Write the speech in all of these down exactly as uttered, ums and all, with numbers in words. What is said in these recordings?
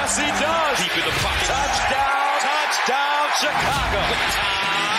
Yes, he does. Deep in the pocket. Touchdown. Touchdown, Chicago.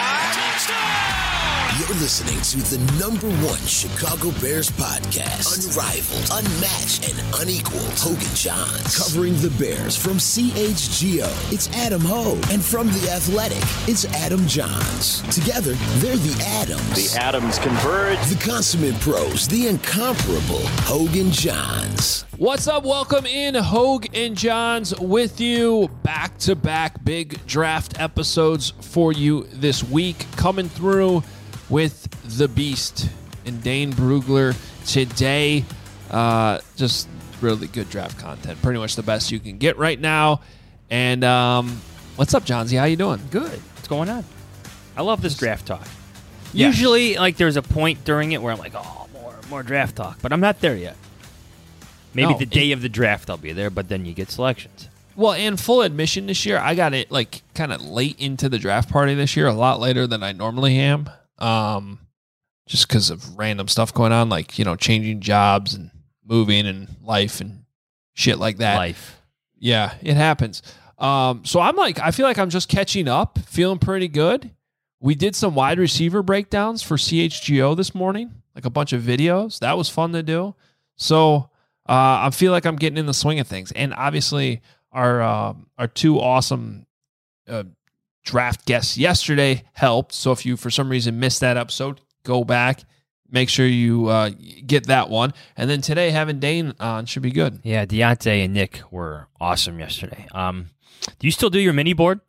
You're listening to the number one Chicago Bears podcast. Unrivaled, unmatched, and unequaled. Hogan Johns. Covering the Bears from C H G O, it's Adam Hogue. And from The Athletic, it's Adam Johns. Together, they're the Adams. The Adams converge. The consummate pros, the incomparable Hogan Johns. What's up? Welcome in, Hogue and Johns with you. Back-to-back big draft episodes for you this week. Coming through with the Beast and Dane Brugler today. Uh, just really good draft content. Pretty much the best you can get right now. And um, what's up, Johnsy? How you doing? Good. What's going on? I love this draft talk. Yeah. Usually, like, there's a point during it where I'm like, oh, more, more draft talk. But I'm not there yet. Maybe No, the day it- of the draft I'll be there, but then you get selections. Well, and full admission this year, I got it like kind of late into the draft party this year, a lot later than I normally am. Um, just because of random stuff going on, like, you know, changing jobs and moving and life and shit like that. Life. Yeah, it happens. Um, so I'm like, I feel like I'm just catching up, feeling pretty good. We did some wide receiver breakdowns for C H G O this morning, like a bunch of videos. That was fun to do. So uh, I feel like I'm getting in the swing of things. And obviously our, uh, our two awesome uh, draft guests yesterday helped. So if you, for some reason, missed that episode, go back, make sure you uh, get that one. And then today, having Dane on should be good. Yeah, Deontay and Nick were awesome yesterday. Um, do you still do your mini board?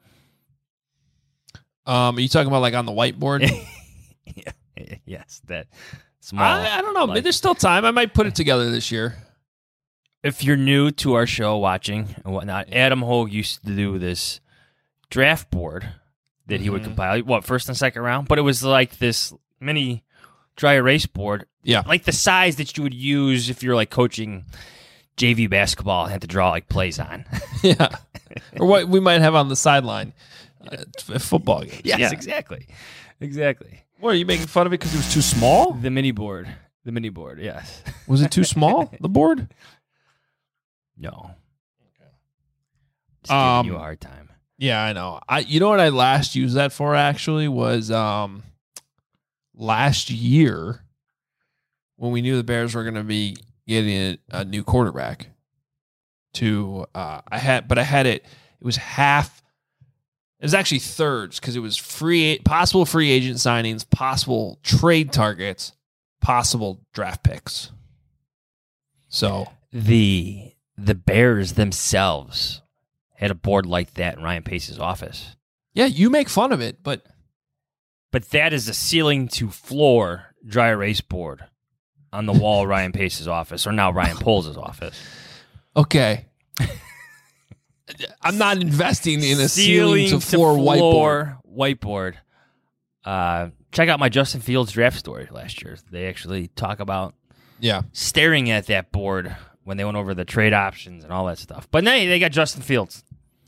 Um, are you talking about like on the whiteboard? yeah. Yes, that small. I, I don't know. like- There's still time. I might put it together this year. If you're new to our show, watching and whatnot, Adam Hogue used to do this draft board that he would Mhm. compile. What, first and second round? But it was like this mini dry erase board. Yeah. Like the size that you would use if you're like coaching J V basketball and had to draw like plays on. Yeah. Or what we might have on the sideline uh, at football games. yes, Yeah. exactly. Exactly. What, are you making fun of it because it was too small? The mini board. The mini board, yes. Was it too small, the board? No. Just Um, giving you a hard time. Yeah, I know. I you know what I last used that for actually was um last year when we knew the Bears were going to be getting a, a new quarterback. To uh, I had, but I had it. It was half. It was actually thirds because it was free, possible free agent signings, possible trade targets, possible draft picks. So The the Bears themselves had a board like that in Ryan Pace's office. yeah, you make fun of it, but But that is a ceiling to floor dry erase board on the wall of Ryan Pace's office, or now Ryan Poles' office. okay. I'm not investing in a ceiling, to floor whiteboard. floor whiteboard. Uh, check out my Justin Fields draft story last year. They actually talk about Yeah. staring at that board when they went over the trade options and all that stuff. But now they got Justin Fields.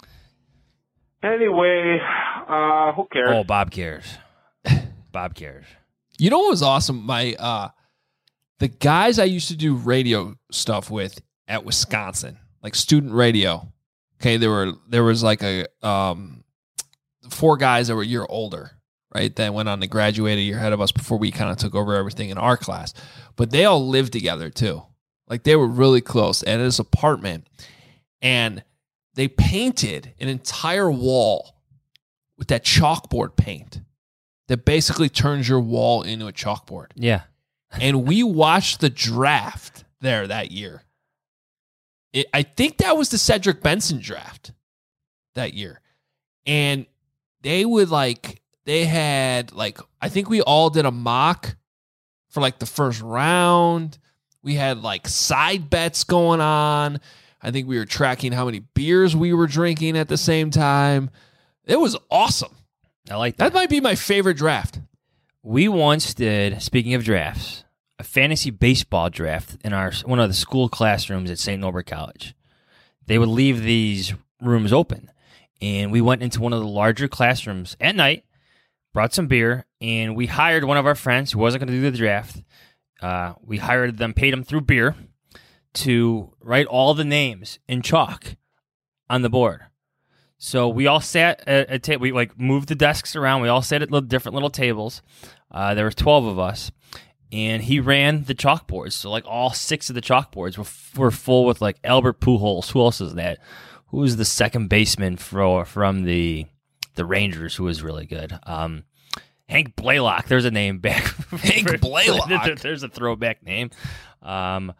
Anyway, uh, who cares? Oh, Bob cares. Bob cares. You know what was awesome? My uh the guys I used to do radio stuff with at Wisconsin, like student radio. Okay, there were there was like a um four guys that were a year older, right? That went on to graduate a year ahead of us before we kind of took over everything in our class. But they all lived together too. Like they were really close at his apartment. And they painted an entire wall with that chalkboard paint that basically turns your wall into a chalkboard. Yeah. And we watched the draft there that year. It, I think that was the Cedric Benson draft that year. And they would like, they had like, I think we all did a mock for like the first round. We had like side bets going on. I think we were tracking how many beers we were drinking at the same time. It was awesome. I like that. That might be my favorite draft. We once did, speaking of drafts, a fantasy baseball draft in our one of the school classrooms at Saint Norbert College. They would leave these rooms open, and we went into one of the larger classrooms at night, brought some beer, and we hired one of our friends who wasn't going to do the draft. Uh, we hired them, paid them through beer, to write all the names in chalk on the board. So we all sat at a table. We like moved the desks around. We all sat at little, different little tables. Uh, there were twelve of us, and he ran the chalkboards. So like all six of the chalkboards were, were full with like Albert Pujols. Who else is that? Who was the second baseman for from the the Rangers? Who was really good? Um, Hank Blaylock. There's a name back. Hank Blaylock. There's a throwback name. Um,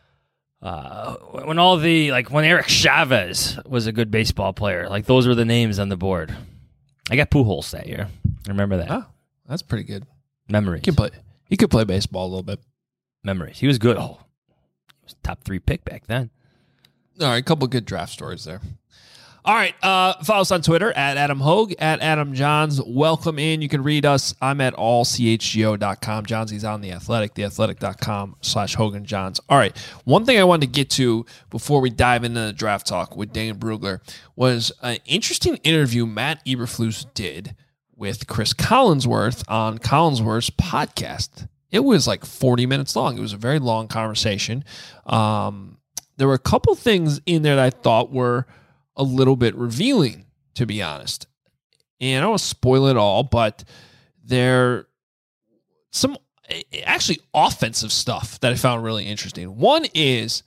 Uh, when all the, like, when Eric Chavez was a good baseball player, like, those were the names on the board. I got Pujols that year. I remember that. Oh, that's pretty good. Memories. He could play, he could play baseball a little bit. Memories. He was good. Oh, he was top three pick back then. All right, a couple good draft stories there. All right, uh, follow us on Twitter, at Adam Hogue, at Adam Johns. Welcome in. You can read us. I'm at all c h g o dot com. Johnsy's on The Athletic, theathletic.com slash Hogan Johns. All right, one thing I wanted to get to before we dive into the draft talk with Dane Brugler was an interesting interview Matt Eberflus did with Chris Collinsworth on Collinsworth's podcast. It was like forty minutes long. It was a very long conversation. Um, there were a couple things in there that I thought were a little bit revealing, to be honest. And I don't want to spoil it all, but there some actually offensive stuff that I found really interesting. One is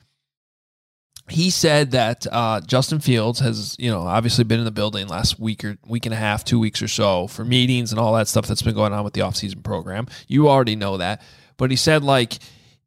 he said that uh, Justin Fields has, you know, obviously been in the building last week or week and a half, two weeks or so for meetings and all that stuff that's been going on with the offseason program. You already know that. But he said, like,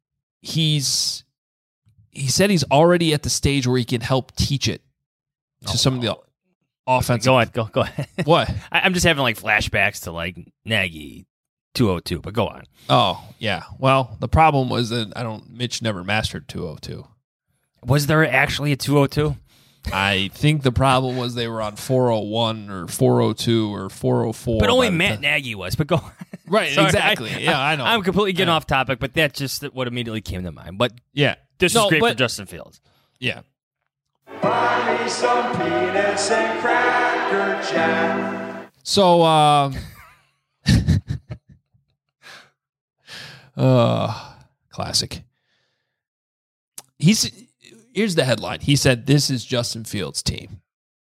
he's he said he's already at the stage where he can help teach it to oh, some of the offensive. Go ahead, go go ahead. What? I, I'm just having like flashbacks to like Nagy two oh two, but go on. Oh yeah. Well, the problem was that I don't. Mitch never mastered two oh two. Was there actually a two oh two? I think the problem was they were on four oh one or four oh two or four oh four. But only Matt time. Nagy was. But go on. Right. Sorry, exactly. I, yeah, I know. I'm completely getting off topic, but that's just what immediately came to mind. But yeah, this no, is great but, for Justin Fields. Yeah. Buy me some peanuts and cracker jack. So, uh, uh, classic. He's here's the headline. He said, "This is Justin Fields' team."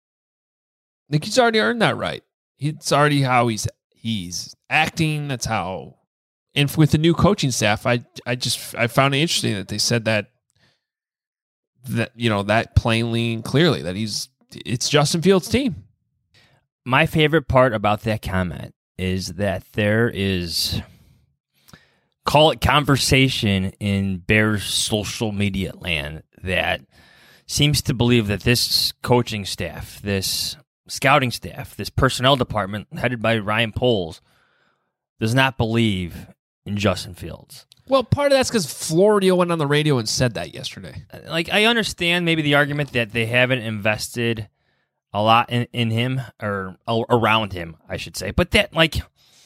I think he's already earned that right. It's already how he's he's acting. That's how. And with the new coaching staff, I I just I found it interesting that they said that. That you know that plainly and clearly that he's it's Justin Fields' team. My favorite part about that comment is that there is, call it conversation in Bears social media land that seems to believe that this coaching staff, this scouting staff, this personnel department headed by Ryan Poles does not believe in Justin Fields. Well, part of that's because Florio went on the radio and said that yesterday. Like, I understand maybe the argument that they haven't invested a lot in, in him, or around him, I should say. But that, like,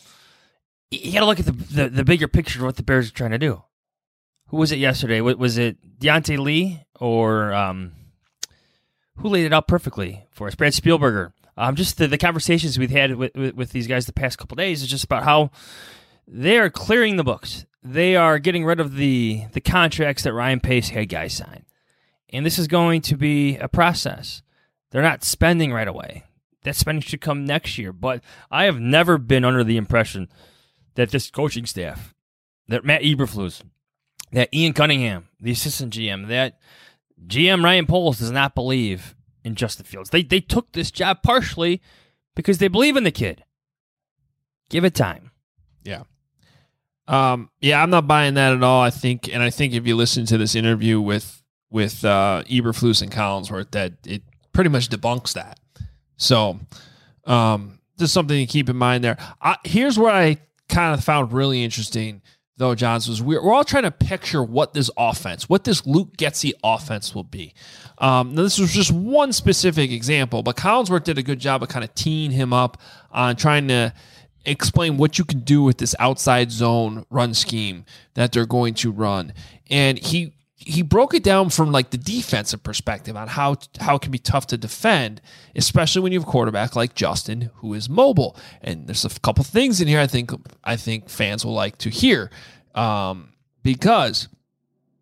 you got to look at the, the the bigger picture of what the Bears are trying to do. Who was it yesterday? Was it Deontay Lee or um, who laid it out perfectly for us? Brad Spielberger. Um, just the, the conversations we've had with, with, with these guys the past couple of days is just about how they are clearing the books. They are getting rid of the, the contracts that Ryan Pace had guys sign. And this is going to be a process. They're not spending right away. That spending should come next year. But I have never been under the impression that this coaching staff, that Matt Eberflus, that Ian Cunningham, the assistant G M, that G M Ryan Poles does not believe in Justin Fields. They they took this job partially because they believe in the kid. Give it time. Yeah. Um, yeah, I'm not buying that at all. I think, and I think if you listen to this interview with with uh, Eberflus and Collinsworth, that it pretty much debunks that. So, um, just something to keep in mind there. I, here's what I kind of found really interesting, though, Johns, was we're, we're all trying to picture what this offense, what this Luke Getsy offense will be. Um, now, this was just one specific example, but Collinsworth did a good job of kind of teeing him up on trying to explain what you can do with this outside zone run scheme that they're going to run. And he he broke it down from like the defensive perspective on how how it can be tough to defend, especially when you have a quarterback like Justin who is mobile. And there's a couple things in here I think I think fans will like to hear, um, because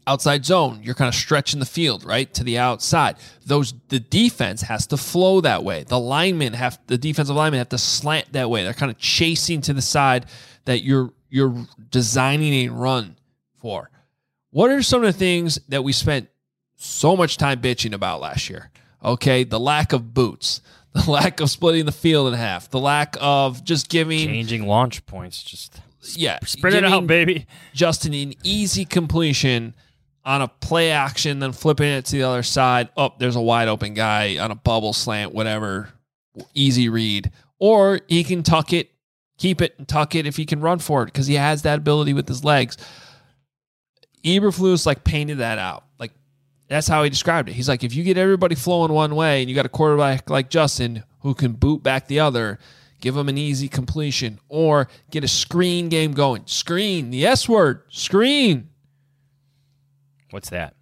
outside zone, you're kind of stretching the field, right, to the outside. Those the defense has to flow that way. The linemen have the defensive linemen have to slant that way. They're kind of chasing to the side that you're you're designing a run for. What are some of the things that we spent so much time bitching about last year? Okay, the lack of boots, the lack of splitting the field in half, the lack of just giving changing launch points, just yeah, spread it out, baby. Justin an easy completion on a play action, then flipping it to the other side. Oh, there's a wide open guy on a bubble slant, whatever. Easy read. Or he can tuck it, keep it, and tuck it if he can run for it because he has that ability with his legs. Eberflus like painted that out. Like that's how he described it. He's like, if you get everybody flowing one way and you got a quarterback like Justin who can boot back the other, give him an easy completion or get a screen game going. Screen, the S word, screen. What's that?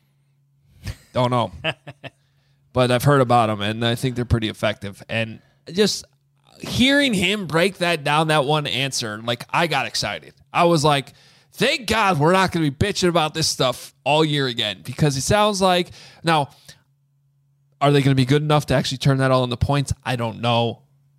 Don't know. But I've heard about them, and I think they're pretty effective. And just hearing him break that down, that one answer, like I got excited. I was like, thank God we're not going to be bitching about this stuff all year again because it sounds like now, are they going to be good enough to actually turn that all into points? I don't know.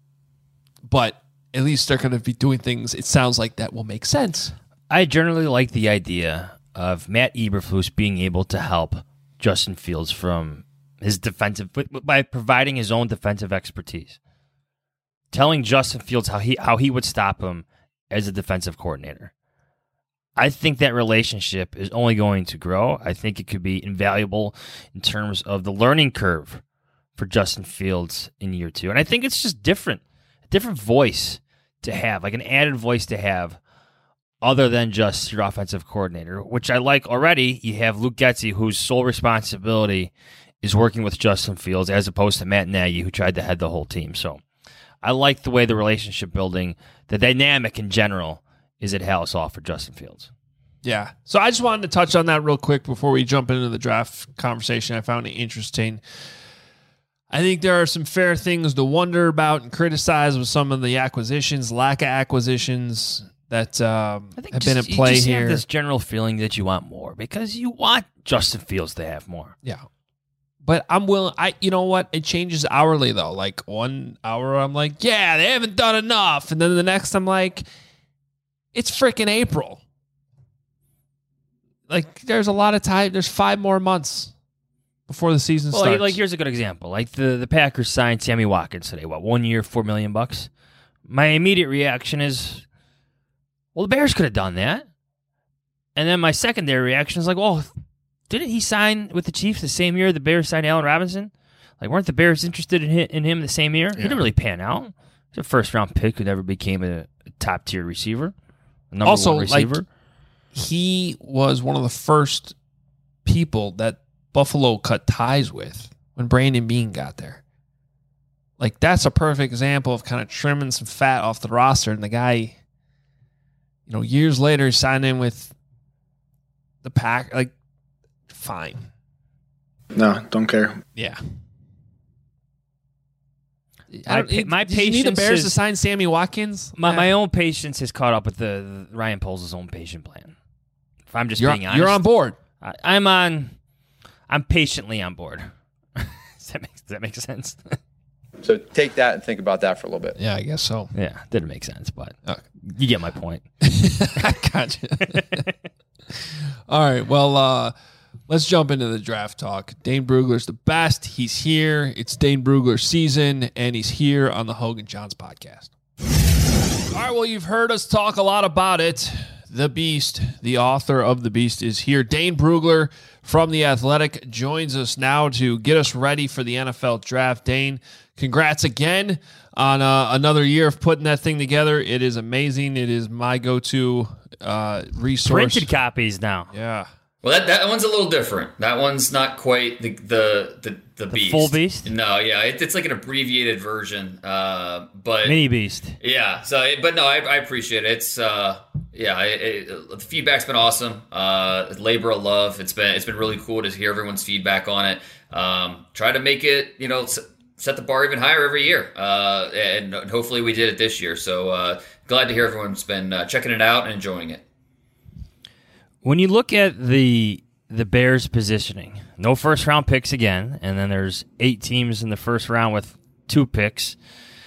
But at least they're going to be doing things, it sounds like that will make sense. I generally like the idea of Matt Eberflus being able to help Justin Fields from his defensive by providing his own defensive expertise, telling Justin Fields how he how he would stop him as a defensive coordinator. I think that relationship is only going to grow. I think it could be invaluable in terms of the learning curve for Justin Fields in year two, and I think it's just different, a different voice to have, like an added voice to have. Other than just your offensive coordinator, which I like already. You have Luke Getsy, whose sole responsibility is working with Justin Fields, as opposed to Matt Nagy, who tried to head the whole team. So I like the way the relationship building, the dynamic in general, is at Halas Hall for Justin Fields. Yeah. So I just wanted to touch on that real quick before we jump into the draft conversation. I found it interesting. I think there are some fair things to wonder about and criticize with some of the acquisitions, lack of acquisitions that um, I think have just, been at play you just here. Have this general feeling that you want more because you want Justin Fields to have more. Yeah, but I'm willing. I, you know what? It changes hourly though. Like one hour, I'm like, yeah, they haven't done enough, and then the next, I'm like, it's freaking April. Like, there's a lot of time. There's five more months before the season well, starts. Like, here's a good example. Like the the Packers signed Sammy Watkins today. What, one year, four million bucks? My immediate reaction is, well, the Bears could have done that. And then my secondary reaction is like, well, didn't he sign with the Chiefs the same year the Bears signed Allen Robinson? Like, weren't the Bears interested in him, in him the same year? Yeah. He didn't really pan out. He's a first-round pick who never became a, a top-tier receiver, a number also, one receiver. Like, he was one of the first people that Buffalo cut ties with when Brandon Beane got there. Like, that's a perfect example of kind of trimming some fat off the roster, and the guy... You know, years later, he signed in with the Pack. Like, fine. No, don't care. Yeah. My, pa- my did patience you need the Bears is, to sign Sammy Watkins? My yeah. my own patience has caught up with the, the Ryan Poles' own patient plan. If I'm just you're, being honest, you're on board. I, I'm on. I'm patiently on board. does, that make, does that make sense? So take that and think about that for a little bit. Yeah, I guess so. Yeah, didn't make sense, but Okay. You get my point. I gotcha. All right. Well, uh, let's jump into the draft talk. Dane Brugler's the best. He's here. It's Dane Brugler's season, and he's here on the Hogan Johns podcast. All right. Well, you've heard us talk a lot about it. The Beast, the author of The Beast, is here. Dane Brugler from The Athletic joins us now to get us ready for the N F L draft. Dane, congrats again on uh, another year of putting that thing together. It is amazing. It is my go-to uh, resource. Printed copies now. Yeah. Well, that, that one's a little different. That one's not quite the the the, the, The beast. full beast? No, yeah, it, it's like an abbreviated version. Uh, but Mini Beast. yeah. So, it, but no, I, I appreciate it. It's uh, yeah, it, it, the feedback's been awesome. Uh, labor of love. It's been it's been really cool to hear everyone's feedback on it. Um, try to make it, you know, set the bar even higher every year, uh, and hopefully we did it this year. So uh, glad to hear everyone's been uh, checking it out and enjoying it. When you look at the the Bears' positioning. No first-round picks again, and then there's eight teams in the first round with two picks.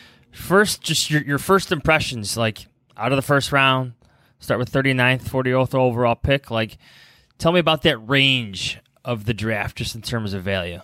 First, just your, your first impressions, like out of the first round, start with thirty-ninth, fortieth overall pick. Like, tell me about that range of the draft just in terms of value.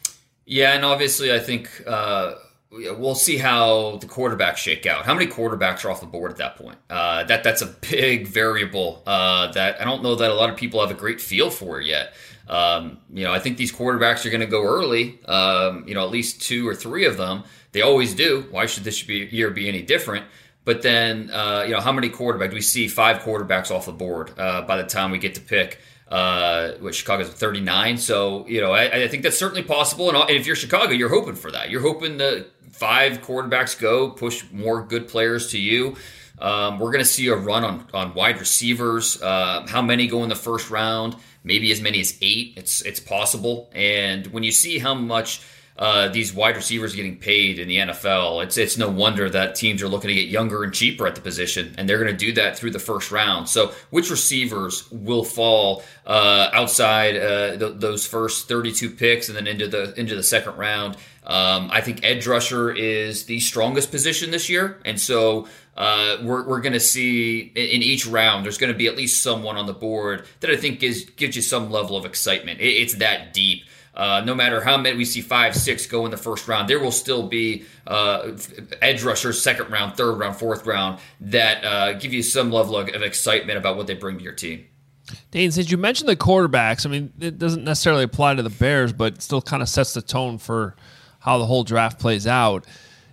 Yeah, and obviously I think uh, we'll see how the quarterbacks shake out. How many quarterbacks are off the board at that point? Uh, that That's a big variable uh, that I don't know that a lot of people have a great feel for yet. Um, you know, I think these quarterbacks are going to go early, um, you know, at least two or three of them. They always do. Why should this year be any different? But then, uh, you know, how many quarterbacks? Do we see five quarterbacks off the board uh, by the time we get to pick? Uh, which Chicago's at thirty-nine. So, you know, I, I think that's certainly possible. And if you're Chicago, you're hoping for that. You're hoping the five quarterbacks go, push more good players to you. Um, we're going to see a run on, on wide receivers. Uh, how many go in the first round? Maybe as many as eight. It's it's possible. And when you see how much uh, these wide receivers are getting paid in the N F L, it's it's no wonder that teams are looking to get younger and cheaper at the position, and they're going to do that through the first round. So which receivers will fall uh, outside uh, th- those first thirty-two picks and then into the into the second round? Um, I think edge rusher is the strongest position this year, and so uh, we're we're going to see in each round there's going to be at least someone on the board that I think is gives you some level of excitement. It, it's that deep. Uh, no matter how many we see five, six go in the first round, there will still be uh, edge rushers, second round, third round, fourth round that uh, give you some level of, of excitement about what they bring to your team. Dane, since you mentioned the quarterbacks, I mean, it doesn't necessarily apply to the Bears, but it still kind of sets the tone for how the whole draft plays out.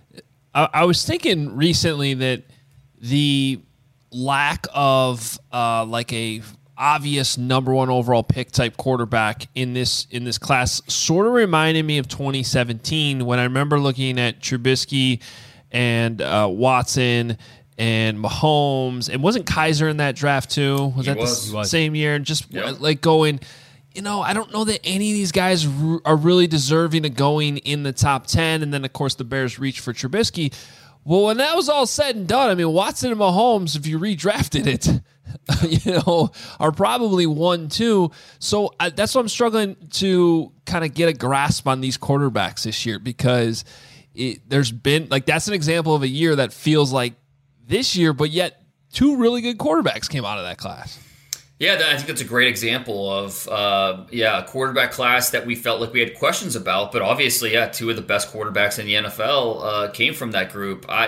I, I was thinking recently that the lack of uh, like a obvious number one overall pick type quarterback in this in this class sort of reminded me of twenty seventeen when I remember looking at Trubisky and uh, Watson and Mahomes, and wasn't Kaiser in that draft too? Was he that was. the same year? And just yep. like going, you know, I don't know that any of these guys r- are really deserving of going in the top ten. And then of course the Bears reached for Trubisky. Well, when that was all said and done, I mean, Watson and Mahomes, if you redrafted it, you know, are probably one, two. So uh, that's what I'm struggling to kind of get a grasp on these quarterbacks this year, because it, there's been like, that's an example of a year that feels like this year, but yet two really good quarterbacks came out of that class. Yeah, I think that's a great example of, uh, yeah, a quarterback class that we felt like we had questions about. But obviously, yeah, two of the best quarterbacks in the N F L uh, came from that group. I,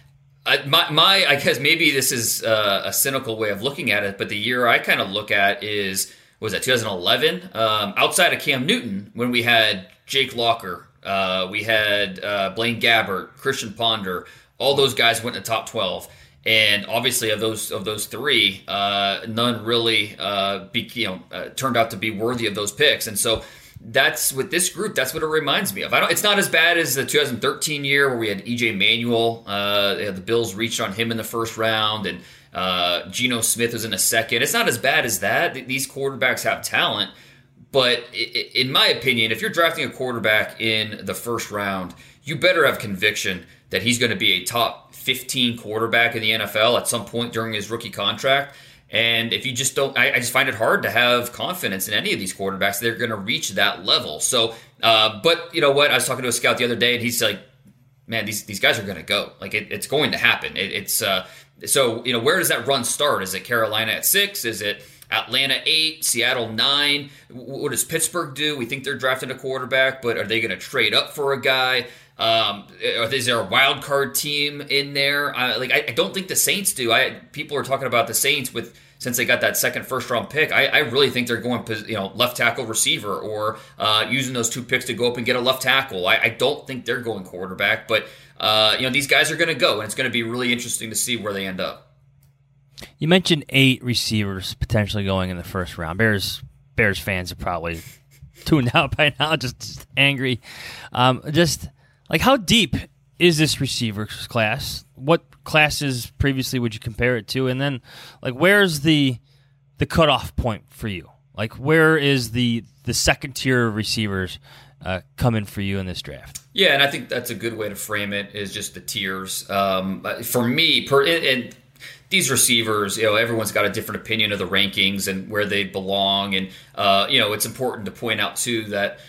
I, my, my, I guess maybe this is uh, a cynical way of looking at it, but the year I kind of look at is, what was that, twenty eleven? Um, outside of Cam Newton, when we had Jake Locker, uh, we had uh, Blaine Gabbert, Christian Ponder, all those guys went in the top twelve. And obviously, of those of those three, uh, none really uh, be, you know uh, turned out to be worthy of those picks. And so that's with this group. That's what it reminds me of. I don't. It's not as bad as the two thousand thirteen year where we had E J Manuel. Uh, the Bills reached on him in the first round, and uh, Geno Smith was in the second. It's not as bad as that. These quarterbacks have talent, but in my opinion, if you're drafting a quarterback in the first round, you better have conviction that he's going to be a top fifteen quarterback in the N F L at some point during his rookie contract. And if you just don't, I, I just find it hard to have confidence in any of these quarterbacks. They're going to reach that level. So, uh, but you know what? I was talking to a scout the other day, and he's like, man, these, these guys are going to go. Like it, it's going to happen. It, it's uh, so, you know, where does that run start? Is it Carolina at six? Is it Atlanta eight, Seattle nine? What does Pittsburgh do? We think they're drafting a quarterback, but are they going to trade up for a guy? Um, is there a wild card team in there? I, like I, I don't think the Saints do. I people are talking about the Saints with since they got that second first round pick. I, I really think they're going, you know, left tackle, receiver, or uh, using those two picks to go up and get a left tackle. I, I don't think they're going quarterback, but uh, you know, these guys are going to go, and it's going to be really interesting to see where they end up. You mentioned eight receivers potentially going in the first round. Bears Bears fans are probably tuned out by now, just, just angry. Um, just. Like, how deep is this receivers class? What classes previously would you compare it to? And then, like, where's the the cutoff point for you? Like, where is the the second tier of receivers uh, coming for you in this draft? Yeah, and I think that's a good way to frame it, is just the tiers. Um, for me, per and these receivers, you know, everyone's got a different opinion of the rankings and where they belong. And, uh, you know, it's important to point out, too, that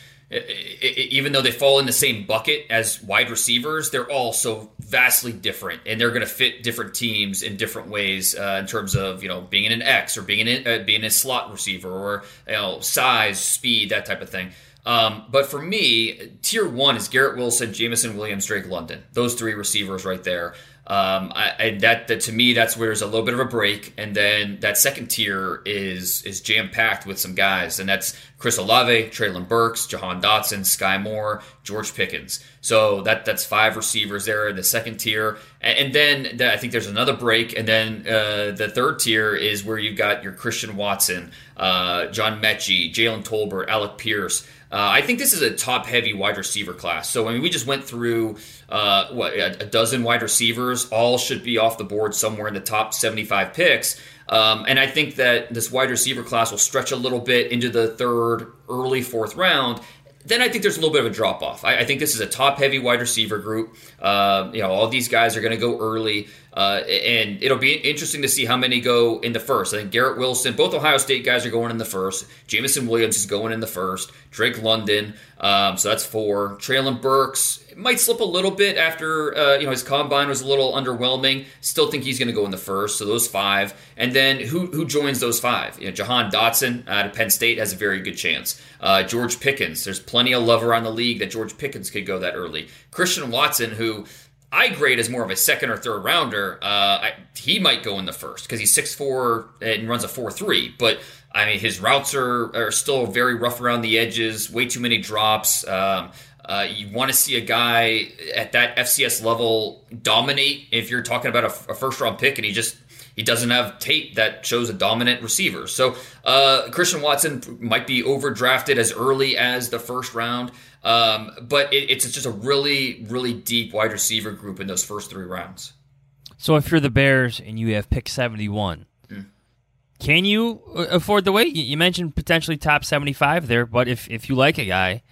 even though they fall in the same bucket as wide receivers, they're all so vastly different, and they're going to fit different teams in different ways uh, in terms of, you know, being in an X or being in uh, being a slot receiver or, you know, size, speed, that type of thing. Um, but for me, tier one is Garrett Wilson, Jameson Williams, Drake London. Those three receivers right there. Um, I, and that, that to me, that's where there's a little bit of a break. And then that second tier is is jam packed with some guys, and that's Chris Olave, Treylon Burks, Jahan Dotson, Sky Moore, George Pickens. So that that's five receivers there in the second tier. And, and then the, I think there's another break. And then uh, the third tier is where you've got your Christian Watson, uh, John Mechie, Jalen Tolbert, Alec Pierce. Uh, I think this is a top-heavy wide receiver class. So, I mean, we just went through, uh, what, a, a dozen wide receivers. All should be off the board somewhere in the top seventy-five picks. Um, and I think that this wide receiver class will stretch a little bit into the third, early fourth round. Then I think there's a little bit of a drop-off. I, I think this is a top-heavy wide receiver group. Uh, you know, all these guys are going to go early. Uh, and it'll be interesting to see how many go in the first. I think Garrett Wilson, both Ohio State guys are going in the first. Jameson Williams is going in the first. Drake London, um, so that's four. Treylon Burks might slip a little bit after uh, you know his combine was a little underwhelming. Still think he's going to go in the first, so those five. And then who who joins those five? You know, Jahan Dotson out of Penn State has a very good chance. Uh, George Pickens, there's plenty of love around the league that George Pickens could go that early. Christian Watson, who I grade as more of a second or third rounder. Uh, I, he might go in the first because he's six foot four and runs a four three. But, I mean, his routes are, are still very rough around the edges, way too many drops. Um, uh, you want to see a guy at that F C S level dominate if you're talking about a, a first-round pick, and he just he doesn't have tape that shows a dominant receiver. So uh, Christian Watson might be overdrafted as early as the first round. Um, but it, it's just a really, really deep wide receiver group in those first three rounds. So if you're the Bears and you have pick seventy-one, mm. can you afford the wait? You mentioned potentially top seventy-five there, but if, if you like a guy,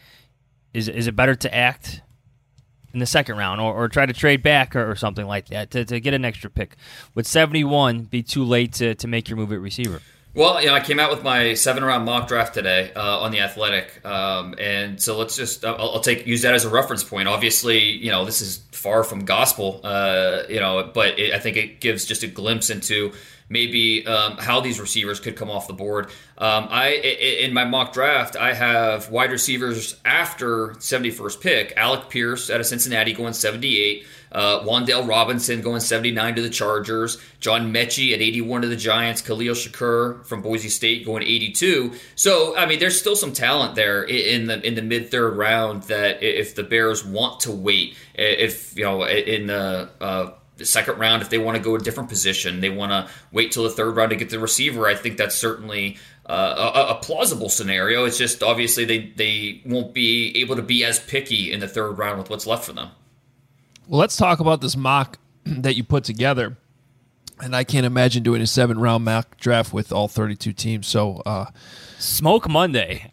is is it better to act in the second round or, or try to trade back or, or something like that to, to get an extra pick? Would seventy-one be too late to, to make your move at receiver? Well, you know, I came out with my seven-round mock draft today uh, on The Athletic, um, and so let's just I'll, I'll take use that as a reference point. Obviously, you know, this is far from gospel, uh, you know, but it, I think it gives just a glimpse into maybe um, how these receivers could come off the board. Um, I in my mock draft, I have wide receivers after seventy-first pick. Alec Pierce out of Cincinnati going seventy-eight. Uh, Wan'Dale Robinson going seventy-nine to the Chargers. John Mechie at eighty-one to the Giants. Khalil Shakur from Boise State going eighty-two. So, I mean, there's still some talent there in the in the mid third round that if the Bears want to wait, if you know in the uh, the second round, if they want to go a different position, they want to wait till the third round to get the receiver. I think that's certainly uh, a, a plausible scenario. It's just obviously they they won't be able to be as picky in the third round with what's left for them. Well, let's talk about this mock that you put together. And I can't imagine doing a seven-round mock draft with all thirty-two teams. So, uh, Smoke Monday.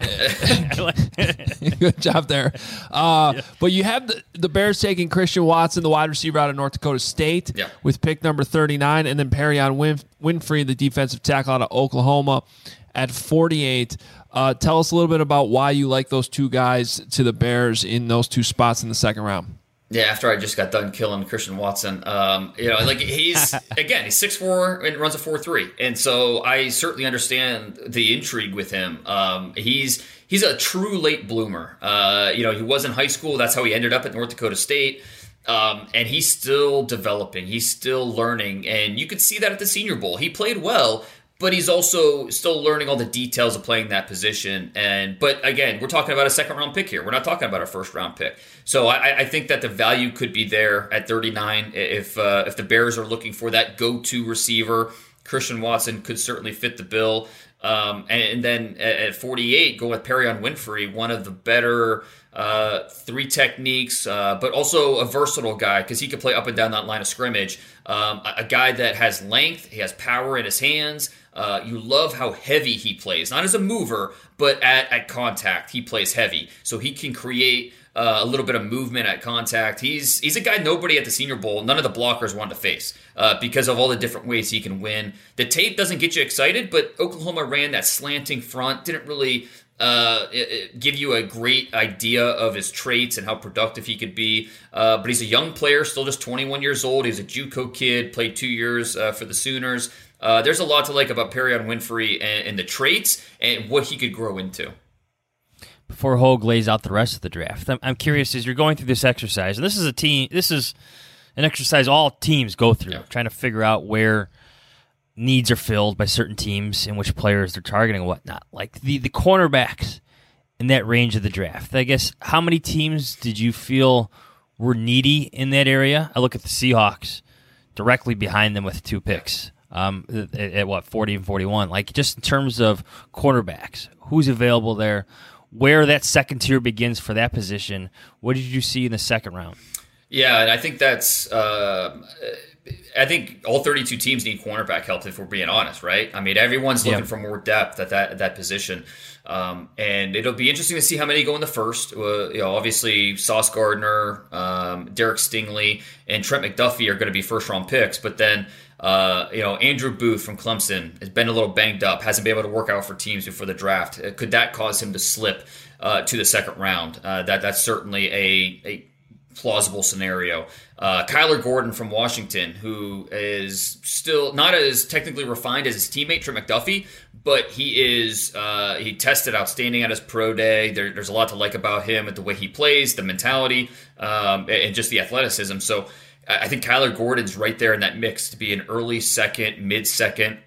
Good job there. Uh, yeah. But you have the, the Bears taking Christian Watson, the wide receiver out of North Dakota State, yeah. with pick number thirty-nine, and then Perion Win- Winfrey, the defensive tackle out of Oklahoma, at forty-eight. Uh, tell us a little bit about why you like those two guys to the Bears in those two spots in the second round. Yeah, after I just got done killing Christian Watson, um, you know, like he's again he's six foot four and runs a four three, and so I certainly understand the intrigue with him. Um, he's he's a true late bloomer. Uh, you know, he was in high school. That's how he ended up at North Dakota State. Um, and he's still developing. He's still learning, and you could see that at the Senior Bowl. He played well, but he's also still learning all the details of playing that position. And but again, we're talking about a second round pick here. We're not talking about a first round pick. So I, I think that the value could be there at thirty-nine if uh, if the Bears are looking for that go-to receiver. Christian Watson could certainly fit the bill. Um, and, and then at forty-eight, go with Perion Winfrey, one of the better uh, three techniques, uh, but also a versatile guy because he can play up and down that line of scrimmage. Um, a, a guy that has length, he has power in his hands. Uh, you love how heavy he plays, not as a mover, but at, at contact, he plays heavy. So he can create uh, a little bit of movement at contact. He's he's a guy nobody at the Senior Bowl, none of the blockers wanted to face. uh, because of all the different ways he can win. The tape doesn't get you excited, but Oklahoma ran that slanting front, didn't really uh, it, it give you a great idea of his traits and how productive he could be. Uh, but he's a young player, still just twenty-one years old. He's a JUCO kid, played two years uh, for the Sooners. Uh, there's a lot to like about Perrion Winfrey and, and the traits and what he could grow into. Before Hogue lays out the rest of the draft, I'm, I'm curious as you're going through this exercise, and this is a team, this is an exercise all teams go through, yeah. trying to figure out where needs are filled by certain teams and which players they're targeting and whatnot. Like the, the cornerbacks in that range of the draft. I guess, how many teams did you feel were needy in that area? I look at the Seahawks directly behind them with two picks um, at, at what, forty and forty-one. Like just in terms of cornerbacks, who's available there, where that second tier begins for that position. What did you see in the second round? Yeah, and I think that's uh, I think all thirty-two teams need cornerback help, if we're being honest, right? I mean, everyone's looking yeah. for more depth at that at that position, um, and it'll be interesting to see how many go in the first. Uh, you know, obviously Sauce Gardner, um, Derek Stingley, and Trent McDuffie are going to be first round picks, but then uh, you know Andrew Booth from Clemson has been a little banged up, hasn't been able to work out for teams before the draft. Could that cause him to slip uh, to the second round? Uh, that that's certainly a a plausible scenario. Uh, Kyler Gordon from Washington, who is still not as technically refined as his teammate Trent McDuffie, but he is uh, he tested outstanding at his pro day. There, there's a lot to like about him and the way he plays, the mentality, um, and just the athleticism. So I think Kyler Gordon's right there in that mix to be an early second, mid second.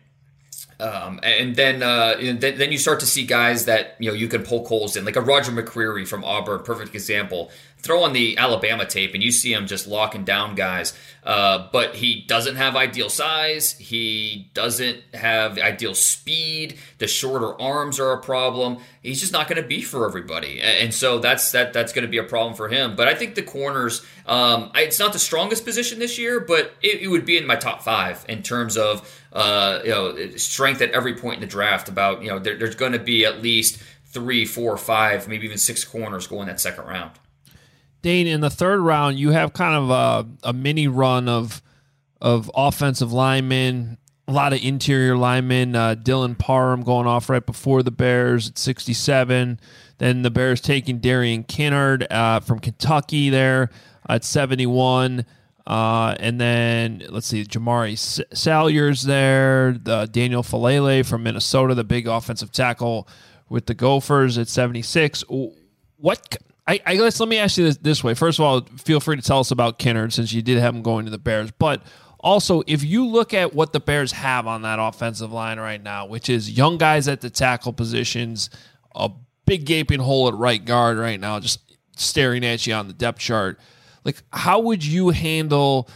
Um, and then, uh, and then then you start to see guys that you know you can poke holes in, like a Roger McCreary from Auburn, perfect example. Throw on the Alabama tape, and you see him just locking down guys. Uh, but he doesn't have ideal size. He doesn't have ideal speed. The shorter arms are a problem. He's just not going to be for everybody, and so that's that. That's going to be a problem for him. But I think the corners, um, it's not the strongest position this year, but it, it would be in my top five in terms of uh, you know strength at every point in the draft. About you know there, there's going to be at least three, four, five, maybe even six corners going that second round. Dane, in the third round, you have kind of a, a mini run of of offensive linemen, a lot of interior linemen. Uh, Dylan Parham going off right before the Bears at sixty-seven. Then the Bears taking Darian Kinnard uh, from Kentucky there at seventy-one. Uh, and then, let's see, Jamari Salyers there, the Daniel Falele from Minnesota, the big offensive tackle with the Gophers at seventy-six. What... I, I guess let me ask you this, this way. First of all, feel free to tell us about Kinnard since you did have him going to the Bears. But also, if you look at what the Bears have on that offensive line right now, which is young guys at the tackle positions, a big gaping hole at right guard right now, just staring at you on the depth chart. Like, how would you handle,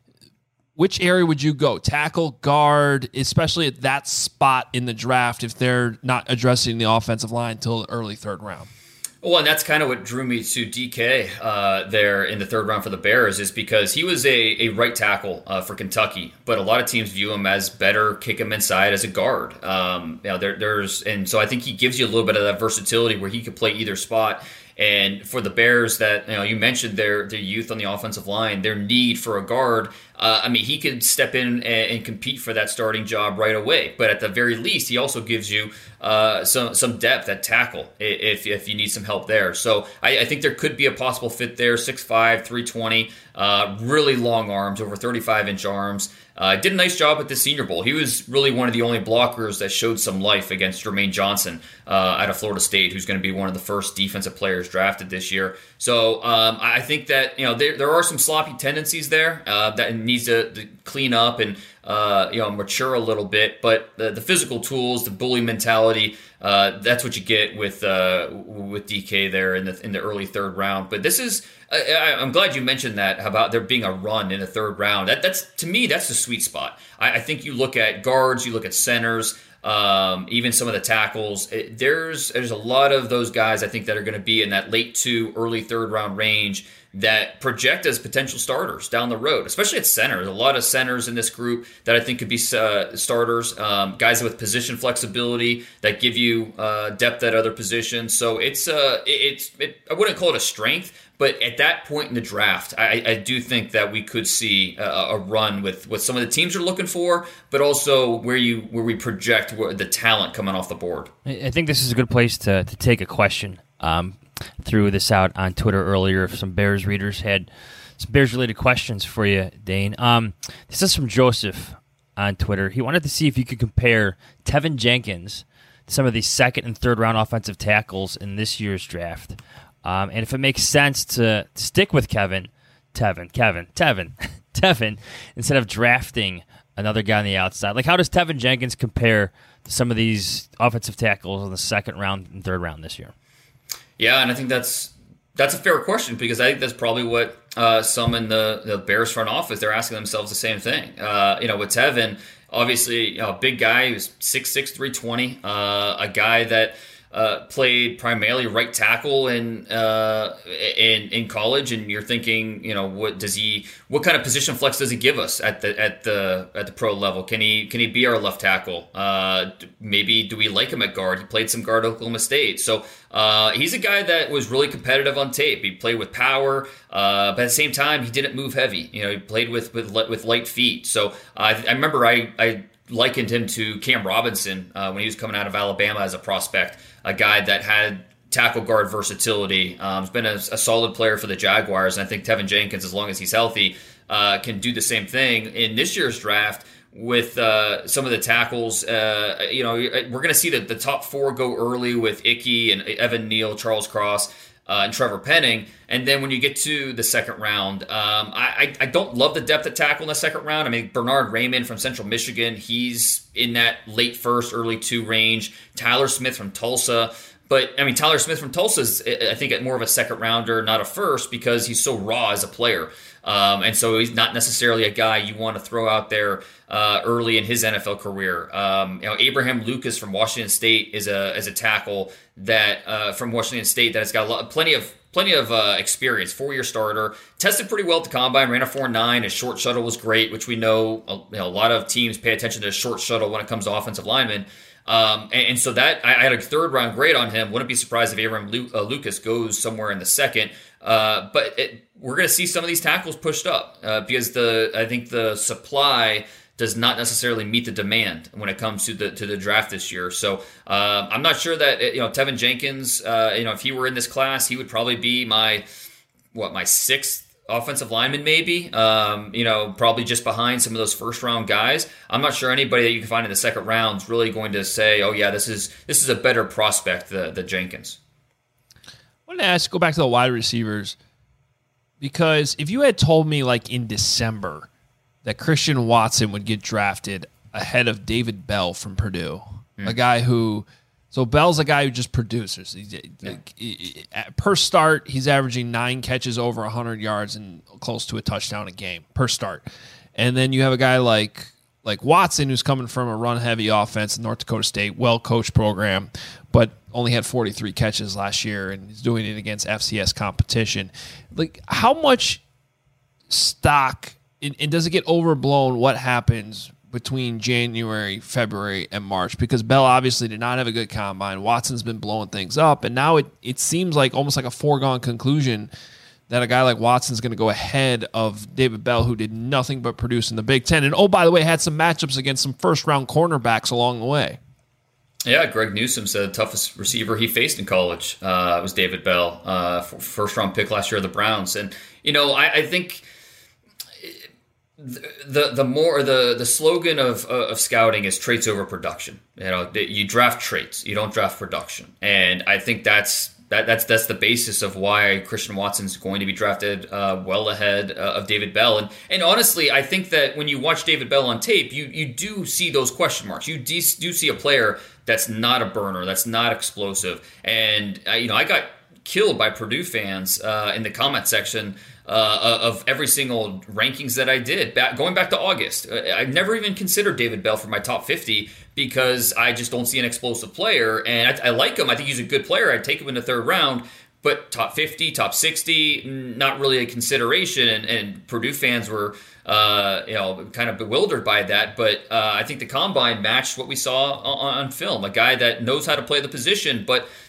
which area would you go? Tackle, guard, especially at that spot in the draft if they're not addressing the offensive line until the early third round? Well, and that's kind of what drew me to D K uh, there in the third round for the Bears, is because he was a, a right tackle uh, for Kentucky, but a lot of teams view him as better, kick him inside as a guard. Um, you know, there, there's and so I think he gives you a little bit of that versatility where he could play either spot. And for the Bears, that you know, you mentioned their their youth on the offensive line, their need for a guard. Uh, I mean, he could step in and, and compete for that starting job right away. But at the very least, he also gives you uh, some some depth at tackle if if you need some help there. So I, I think there could be a possible fit there. six five, three twenty, uh, really long arms, over thirty-five inch arms. Uh, did a nice job at the Senior Bowl. He was really one of the only blockers that showed some life against Jermaine Johnson uh, out of Florida State, who's going to be one of the first defensive players drafted this year. So um, I think that you know there there are some sloppy tendencies there uh, that needs to, to clean up and uh, you know mature a little bit. But the, the physical tools, the bully mentality, uh, that's what you get with uh, with D K there in the in the early third round. But this is. I, I'm glad you mentioned that about there being a run in the third round. That, that's to me, that's the sweet spot. I, I think you look at guards, you look at centers, um, even some of the tackles. It, there's there's a lot of those guys I think that are going to be in that late two, early third round range that project as potential starters down the road, especially at center. There's a lot of centers in this group that I think could be uh, starters, um, guys with position flexibility that give you uh, depth at other positions. So it's uh, it's it, I wouldn't call it a strength, But at that point in the draft, I, I do think that we could see a, a run with what some of the teams are looking for, but also where you where we project where the talent coming off the board. I think this is a good place to, to take a question. Um, threw this out on Twitter earlier. If some Bears readers had some Bears-related questions for you, Dane. Um, this is from Joseph on Twitter. He wanted to see if you could compare Tevin Jenkins to some of the second and third round offensive tackles in this year's draft. Um, and if it makes sense to stick with Kevin, Tevin, Kevin, Tevin, Tevin, instead of drafting another guy on the outside. Like, how does Tevin Jenkins compare to some of these offensive tackles in the second round and third round this year? Yeah, and I think that's that's a fair question, because I think that's probably what uh, some in the, the Bears front office, they're asking themselves the same thing. Uh, you know, with Tevin, obviously, you know, a big guy who's six six, three twenty, uh, a guy that uh, played primarily right tackle in uh, in in college, and you're thinking, you know, what does he, what kind of position flex does he give us at the at the at the pro level? Can he can he be our left tackle? Uh, maybe do we like him at guard? He played some guard at Oklahoma State, so uh, he's a guy that was really competitive on tape. He played with power, uh, but at the same time, he didn't move heavy. You know, he played with with with light feet. So uh, I, I remember I I likened him to Cam Robinson uh, when he was coming out of Alabama as a prospect. A guy that had tackle guard versatility. Um, has been a, a solid player for the Jaguars, and I think Tevin Jenkins, as long as he's healthy, uh, can do the same thing in this year's draft with uh, some of the tackles. Uh, you know, we're going to see the, the top four go early with Ickey and Evan Neal, Charles Cross, uh, and Trevor Penning. And then when you get to the second round, um, I, I don't love the depth at tackle in the second round. I mean, Bernard Raymond from Central Michigan, he's in that late first, early two range. Tyler Smith from Tulsa. But, I mean, Tyler Smith from Tulsa is, I think, more of a second rounder, not a first, because he's so raw as a player. Um, and so he's not necessarily a guy you want to throw out there uh, early in his N F L career. Um, you know, Abraham Lucas from Washington State is a is a tackle that uh, from Washington State that has got a lot, plenty of plenty of uh, experience. Four year starter, tested pretty well at the combine, ran a four nine. His short shuttle was great, which we know, you know a lot of teams pay attention to short shuttle when it comes to offensive linemen. Um, and, and so that I, I had a third round grade on him. Wouldn't be surprised if Abraham Lu, uh, Lucas goes somewhere in the second. Uh, but it, we're going to see some of these tackles pushed up uh, because the I think the supply does not necessarily meet the demand when it comes to the to the draft this year. So uh, I'm not sure that you know Tevin Jenkins. Uh, you know, if he were in this class, he would probably be my what my sixth offensive lineman, maybe, um, you know, probably just behind some of those first round guys. I'm not sure anybody that you can find in the second round is really going to say, oh yeah, this is, this is a better prospect than, than Jenkins. I want to ask, go back to the wide receivers, because if you had told me like in December that Christian Watson would get drafted ahead of David Bell from Purdue, mm. a guy who, So Bell's a guy who just produces. He's, yeah. he, per start, he's averaging nine catches over one hundred yards and close to a touchdown a game per start. And then you have a guy like like Watson, who's coming from a run-heavy offense in North Dakota State, well-coached program, but only had forty-three catches last year, and he's doing it against F C S competition. Like, how much stock, and, and does it get overblown what happens between January, February, and March? Because Bell obviously did not have a good combine. Watson's been blowing things up, and now it, it seems like almost like a foregone conclusion that a guy like Watson's going to go ahead of David Bell, who did nothing but produce in the Big Ten. And, oh, by the way, had some matchups against some first-round cornerbacks along the way. Yeah, Greg Newsome said the toughest receiver he faced in college uh, was David Bell, uh, first-round pick last year of the Browns. And, you know, I, I think the the more the the slogan of of scouting is traits over production. You know, you draft traits, you don't draft production, and I think that's that that's that's the basis of why Christian Watson's going to be drafted uh, well ahead uh, of David Bell. And and honestly, I think that when you watch David Bell on tape, you you do see those question marks. You do, do see a player that's not a burner, that's not explosive, and uh, you know, I got killed by Purdue fans uh, in the comment section Uh, of every single rankings that I did, back, going back to August. I never even considered David Bell for my top fifty because I just don't see an explosive player, and I, I like him. I think he's a good player. I'd take him in the third round, but top fifty, top sixty, not really a consideration, and, and Purdue fans were uh, you know, kind of bewildered by that, but uh, I think the combine matched what we saw on, on film, a guy that knows how to play the position, but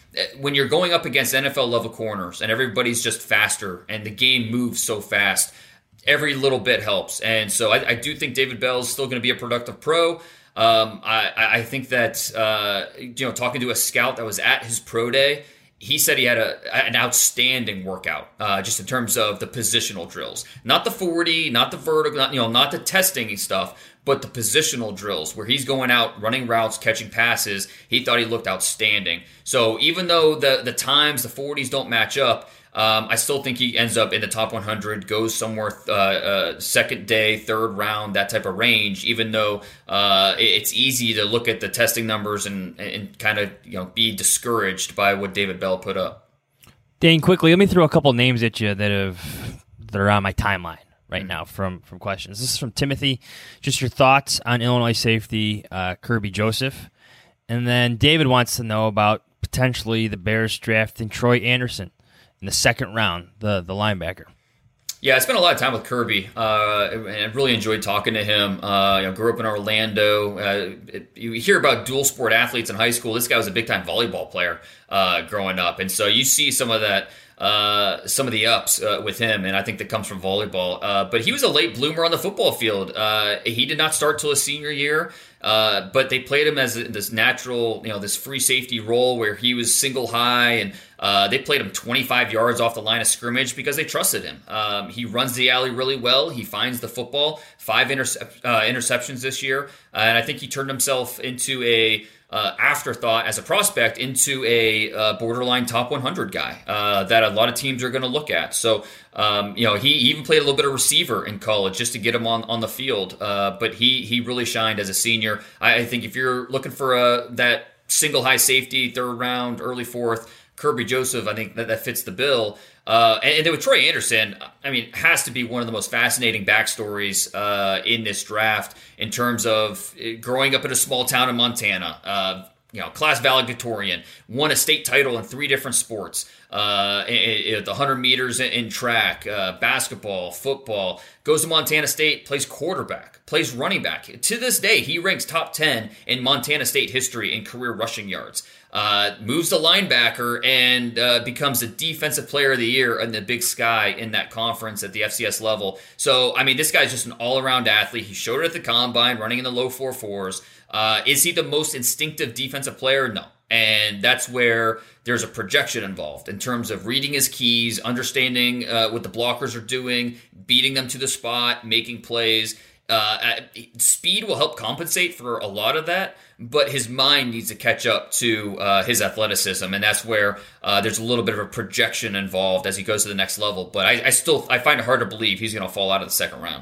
when you're going up against N F L level corners and everybody's just faster and the game moves so fast, every little bit helps. And so I, I do think David Bell is still going to be a productive pro. Um, I, I think that, uh, you know, talking to a scout that was at his pro day, he said he had a, an outstanding workout, uh, just in terms of the positional drills, not the forty, not the vertical, not, you know, not the testing stuff, but the positional drills where he's going out, running routes, catching passes. He thought he looked outstanding. So even though the, the times, the forties don't match up, Um, I still think he ends up in the top one hundred, goes somewhere uh, uh, second day, third round, that type of range, even though uh, it's easy to look at the testing numbers and, and kind of you know be discouraged by what David Bell put up. Dane, quickly, let me throw a couple names at you that have that are on my timeline right mm-hmm. now from, from questions. This is from Timothy. Just your thoughts on Illinois safety uh, Kirby Joseph. And then David wants to know about potentially the Bears drafting Troy Anderson in the second round, the the linebacker. Yeah, I spent a lot of time with Kirby, uh, and I really enjoyed talking to him. Uh, you know, grew up in Orlando. Uh, it, you hear about dual sport athletes in high school. This guy was a big time volleyball player uh, growing up, and so you see some of that, uh, some of the ups uh, with him, and I think that comes from volleyball. Uh, but he was a late bloomer on the football field. Uh, he did not start till his senior year. Uh, but they played him as this natural, you know, this free safety role where he was single high, and uh, they played him twenty-five yards off the line of scrimmage because they trusted him. Um, he runs the alley really well. He finds the football. Five intercep- uh, interceptions this year, uh, and I think he turned himself into a uh, afterthought as a prospect into a uh, borderline top one hundred guy uh, that a lot of teams are going to look at. So, um, you know, he even played a little bit of receiver in college just to get him on, on the field. Uh, but he he really shined as a senior. I, I think if you're looking for a, that single high safety, third round, early fourth, Kirby Joseph, I think that, that fits the bill. Uh, and, and then with Troy Anderson, I mean, has to be one of the most fascinating backstories uh, in this draft in terms of growing up in a small town in Montana. Uh, you know, class valedictorian, won a state title in three different sports. Uh, the one hundred meters in track, uh, basketball, football. Goes to Montana State, plays quarterback, plays running back. To this day, he ranks top ten in Montana State history in career rushing yards. Uh, moves to linebacker and uh, becomes the defensive player of the year in the Big Sky in that conference at the F C S level. So, I mean, this guy's just an all-around athlete. He showed it at the combine, running in the low four fours. Uh, is he the most instinctive defensive player? No. And that's where there's a projection involved in terms of reading his keys, understanding uh, what the blockers are doing, beating them to the spot, making plays. Uh, speed will help compensate for a lot of that, but his mind needs to catch up to uh, his athleticism, and that's where uh, there's a little bit of a projection involved as he goes to the next level. But I, I still I find it hard to believe he's going to fall out of the second round.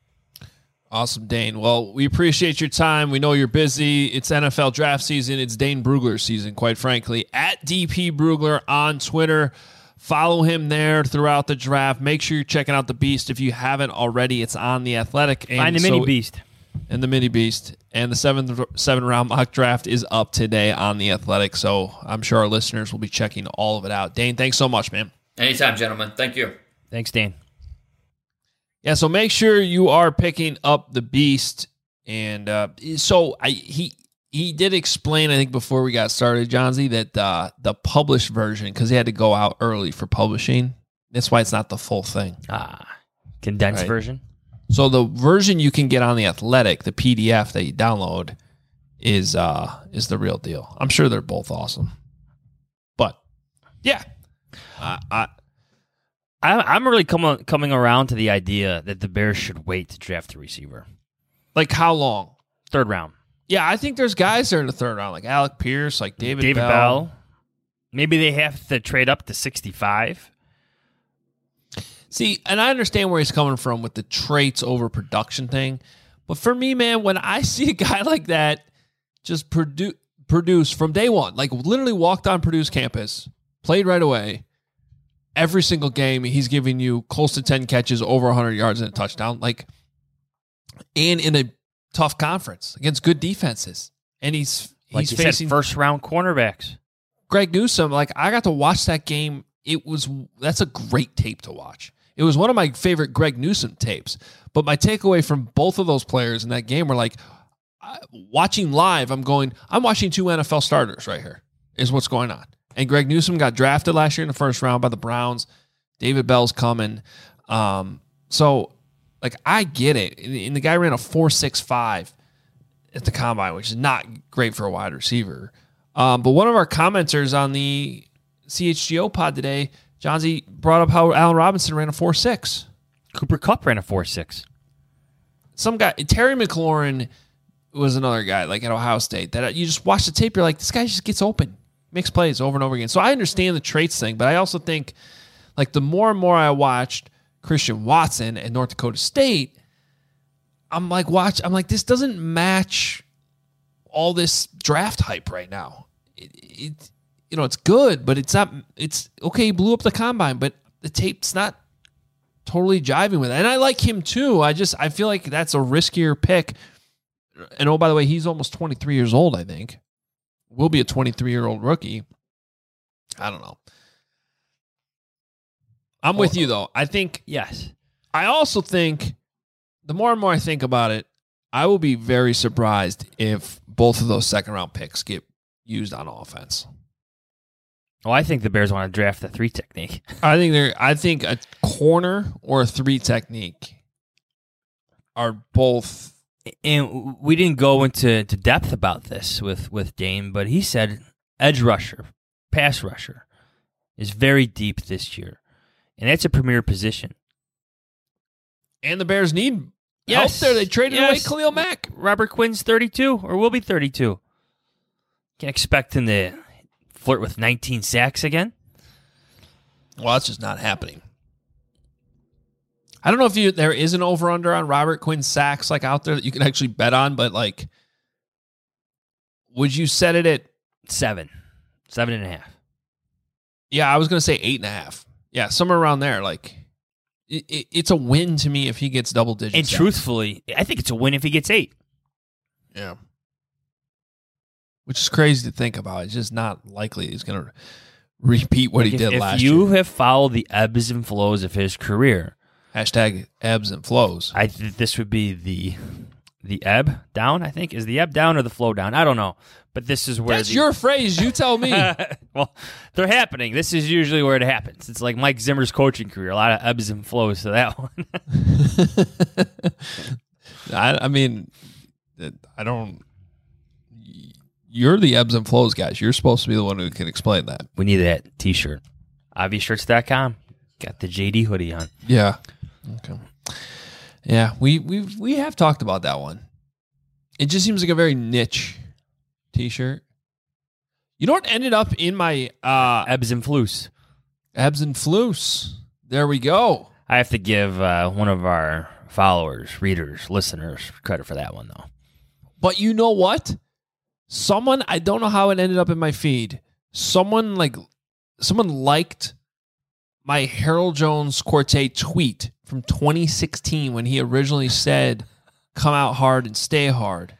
Awesome, Dane. Well, we appreciate your time. We know you're busy. It's N F L draft season. It's Dane Brugler season, quite frankly. At D P Brugler on Twitter. Follow him there throughout the draft. Make sure you're checking out the Beast if you haven't already. It's on The Athletic. And Find the so, Mini Beast. And the Mini Beast. And the seventh seven round mock draft is up today on The Athletic. So I'm sure our listeners will be checking all of it out. Dane, thanks so much, man. Anytime, gentlemen. Thank you. Thanks, Dane. Yeah, so make sure you are picking up the Beast. And uh, so I he he did explain, I think, before we got started, Johnsy, that uh, the published version, because he had to go out early for publishing, that's why it's not the full thing. Ah, condensed right. version. So the version you can get on The Athletic, the P D F that you download, is uh, is the real deal. I'm sure they're both awesome. But, yeah. Uh, I... I'm really coming coming around to the idea that the Bears should wait to draft a receiver. Like how long? Third round. Yeah, I think there's guys there in the third round, like Alec Pierce, like David, David Bell. Bell. Maybe they have to trade up to sixty-five. See, and I understand where he's coming from with the traits over production thing. But for me, man, when I see a guy like that just produ- produce from day one, like literally walked on Purdue's campus, played right away, every single game, he's giving you close to ten catches, over one hundred yards and a touchdown. Like, and in a tough conference against good defenses. And he's like he's you facing said, first round cornerbacks. Greg Newsome. Like, I got to watch that game. It was that's a great tape to watch. It was one of my favorite Greg Newsome tapes. But my takeaway from both of those players in that game were like, watching live, I'm going, I'm watching two N F L starters right here, is what's going on. And Greg Newsome got drafted last year in the first round by the Browns. David Bell's coming. Um, so, like, I get it. And the guy ran a four six five at the combine, which is not great for a wide receiver. Um, but one of our commenters on the C H G O pod today, Johnsy, brought up how Allen Robinson ran a four six. Cooper Kupp ran a four six. Some guy, Terry McLaurin was another guy, like at Ohio State, that you just watch the tape, you're like, this guy just gets open, makes plays over and over again. So I understand the traits thing, but I also think, like, the more and more I watched Christian Watson at North Dakota State, I'm like, watch, I'm like, this doesn't match all this draft hype right now. It, it you know, it's good, but it's not, it's okay, he blew up the combine, but the tape's not totally jiving with it. And I like him too. I just, I feel like that's a riskier pick. And oh, by the way, he's almost twenty-three years old, I think. Will be a twenty-three-year-old rookie. I don't know. I'm with you, though. I think, Yes. I also think, the more and more I think about it, I will be very surprised if both of those second-round picks get used on offense. Well, I think the Bears want to draft the three technique. I think they're. I think a corner or a three technique are both. And we didn't go into to depth about this with, with Dame, but he said edge rusher, pass rusher is very deep this year. And that's a premier position. And the Bears need Yes. help there. They traded Yes. away Khalil Mack. Robert Quinn's thirty-two, or will be thirty-two. Can't expect him to flirt with nineteen sacks again. Well, that's just not happening. I don't know if you there is an over-under on Robert Quinn sacks like out there that you can actually bet on, but like, would you set it at Seven. Seven and a half. Yeah, I was going to say eight and a half. Yeah, somewhere around there. Like, it, it, it's a win to me if he gets double digits. And truthfully, I think it's a win if he gets eight. Yeah. Which is crazy to think about. It's just not likely he's going to repeat what Like he if, did if last you year. have followed the ebbs and flows of his career, Hashtag ebbs and flows. I think this would be the the ebb down, I think. Is the ebb down or the flow down? I don't know. But this is where That's the, your phrase. You tell me. well, they're happening. This is usually where it happens. It's like Mike Zimmer's coaching career. A lot of ebbs and flows to that one. I, I mean, I don't. You're the ebbs and flows guys. You're supposed to be the one who can explain that. We need that t-shirt. Obvious shirts dot com. Got the J D hoodie on. Yeah. Okay. Yeah, we we we have talked about that one. It just seems like a very niche t-shirt. You know what ended up in my uh, Ebbs and flows. ebbs and flows? There we go. I have to give uh, one of our followers, readers, listeners credit for that one, though. But you know what? Someone, I don't know how it ended up in my feed. Someone like someone liked my Harold Jones Quartet tweet from twenty sixteen when he originally said, "Come out hard and stay hard."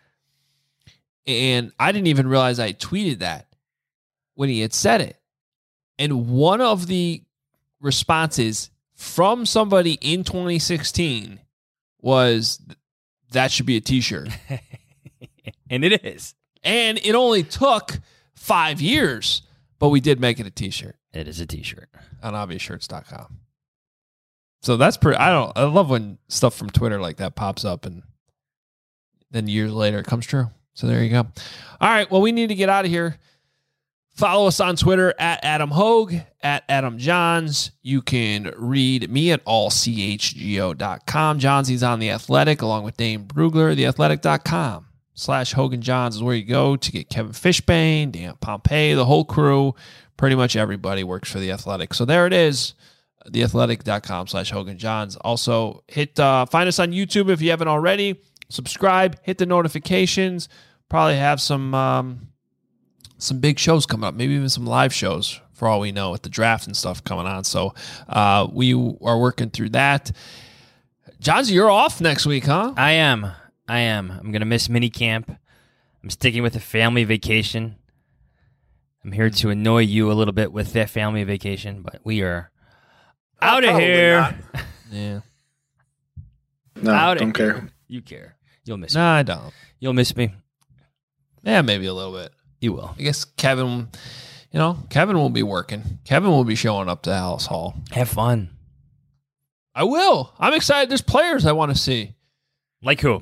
And I didn't even realize I tweeted that when he had said it. And one of the responses from somebody in twenty sixteen was, "That should be a t-shirt." And it is. And it only took five years, but we did make it a t-shirt It is a t-shirt. on obvious shirts dot com. So that's pretty, I don't, I love when stuff from Twitter like that pops up and then years later it comes true. So there you go. All right. Well, we need to get out of here. Follow us on Twitter at Adam Hogue, at Adam Johns. You can read me at all c h g o dot com. Johnsy's on The Athletic along with Dane Brugler. the athletic dot com slash Hogan Johns is where you go to get Kevin Fishbane, Dan Pompey, the whole crew. Pretty much everybody works for The Athletic. So there it is, the athletic dot com slash Hogan Johns. Also, hit uh, find us on YouTube if you haven't already. Subscribe, hit the notifications. Probably have some um, some big shows coming up, maybe even some live shows for all we know with the draft and stuff coming on. So uh, we are working through that. Johns, you're off next week, huh? I am. I am. I'm going to miss mini camp. I'm sticking with a family vacation. I'm here to annoy you a little bit with that family vacation, but we are out of Probably here. not. Yeah. No, Out of don't here. care. You care. You'll miss No, me. I don't. You'll miss me. Yeah, maybe a little bit. You will. I guess Kevin, you You know, Kevin will be working. Kevin will be showing up to Alice Hall. Have fun. I will. I'm excited. There's players I want to see. Like who?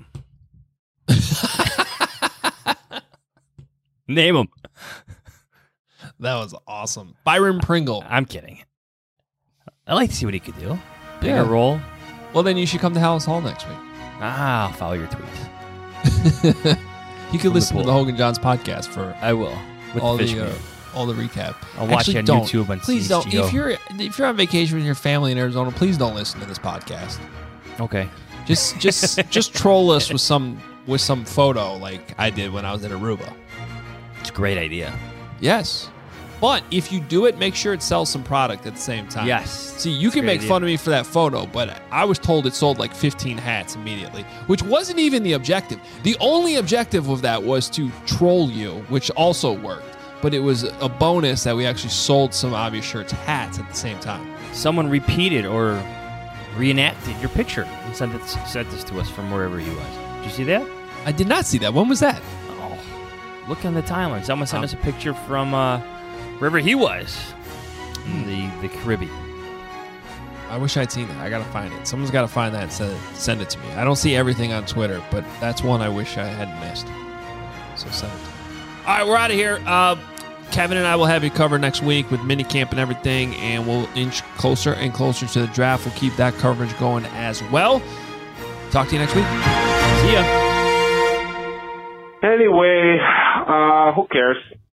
Name them. That was awesome. Byron Pringle. I'm kidding. I'd like to see what he could do. Bigger Yeah. role. Well, then you should come to Alice Hall next week. Ah, I'll follow your tweets. You can the listen to pool. the Hogan Johns podcast for I will. With all the fish the uh, meal. all the recap. I'll watch Actually, it on don't. YouTube on Please C H G O. don't. If you're if you're on vacation with your family in Arizona, please don't listen to this podcast. Okay. Just just just troll us with some with some photo like I did when I was in Aruba. It's a great idea. Yes. But if you do it, make sure it sells some product at the same time. Yes. See, you can Great make idea. fun of me for that photo, but I was told it sold like fifteen hats immediately, which wasn't even the objective. The only objective of that was to troll you, which also worked. But it was a bonus that we actually sold some Obvious Shirts hats at the same time. Someone repeated or reenacted your picture and sent, it, sent this to us from wherever he was. Did you see that? I did not see that. When was that? Oh, look on the timeline. Someone sent Um, us a picture from uh, wherever he was in the, the Caribbean. I wish I'd seen it. I gotta find it. Someone's gotta find that and send it, send it to me. I don't see everything on Twitter, but that's one I wish I hadn't missed. So send it to me. All right, we're out of here. Uh, Kevin and I will have you covered next week with minicamp and everything, and we'll inch closer and closer to the draft. We'll keep that coverage going as well. Talk to you next week. See ya. Anyway, uh, who cares?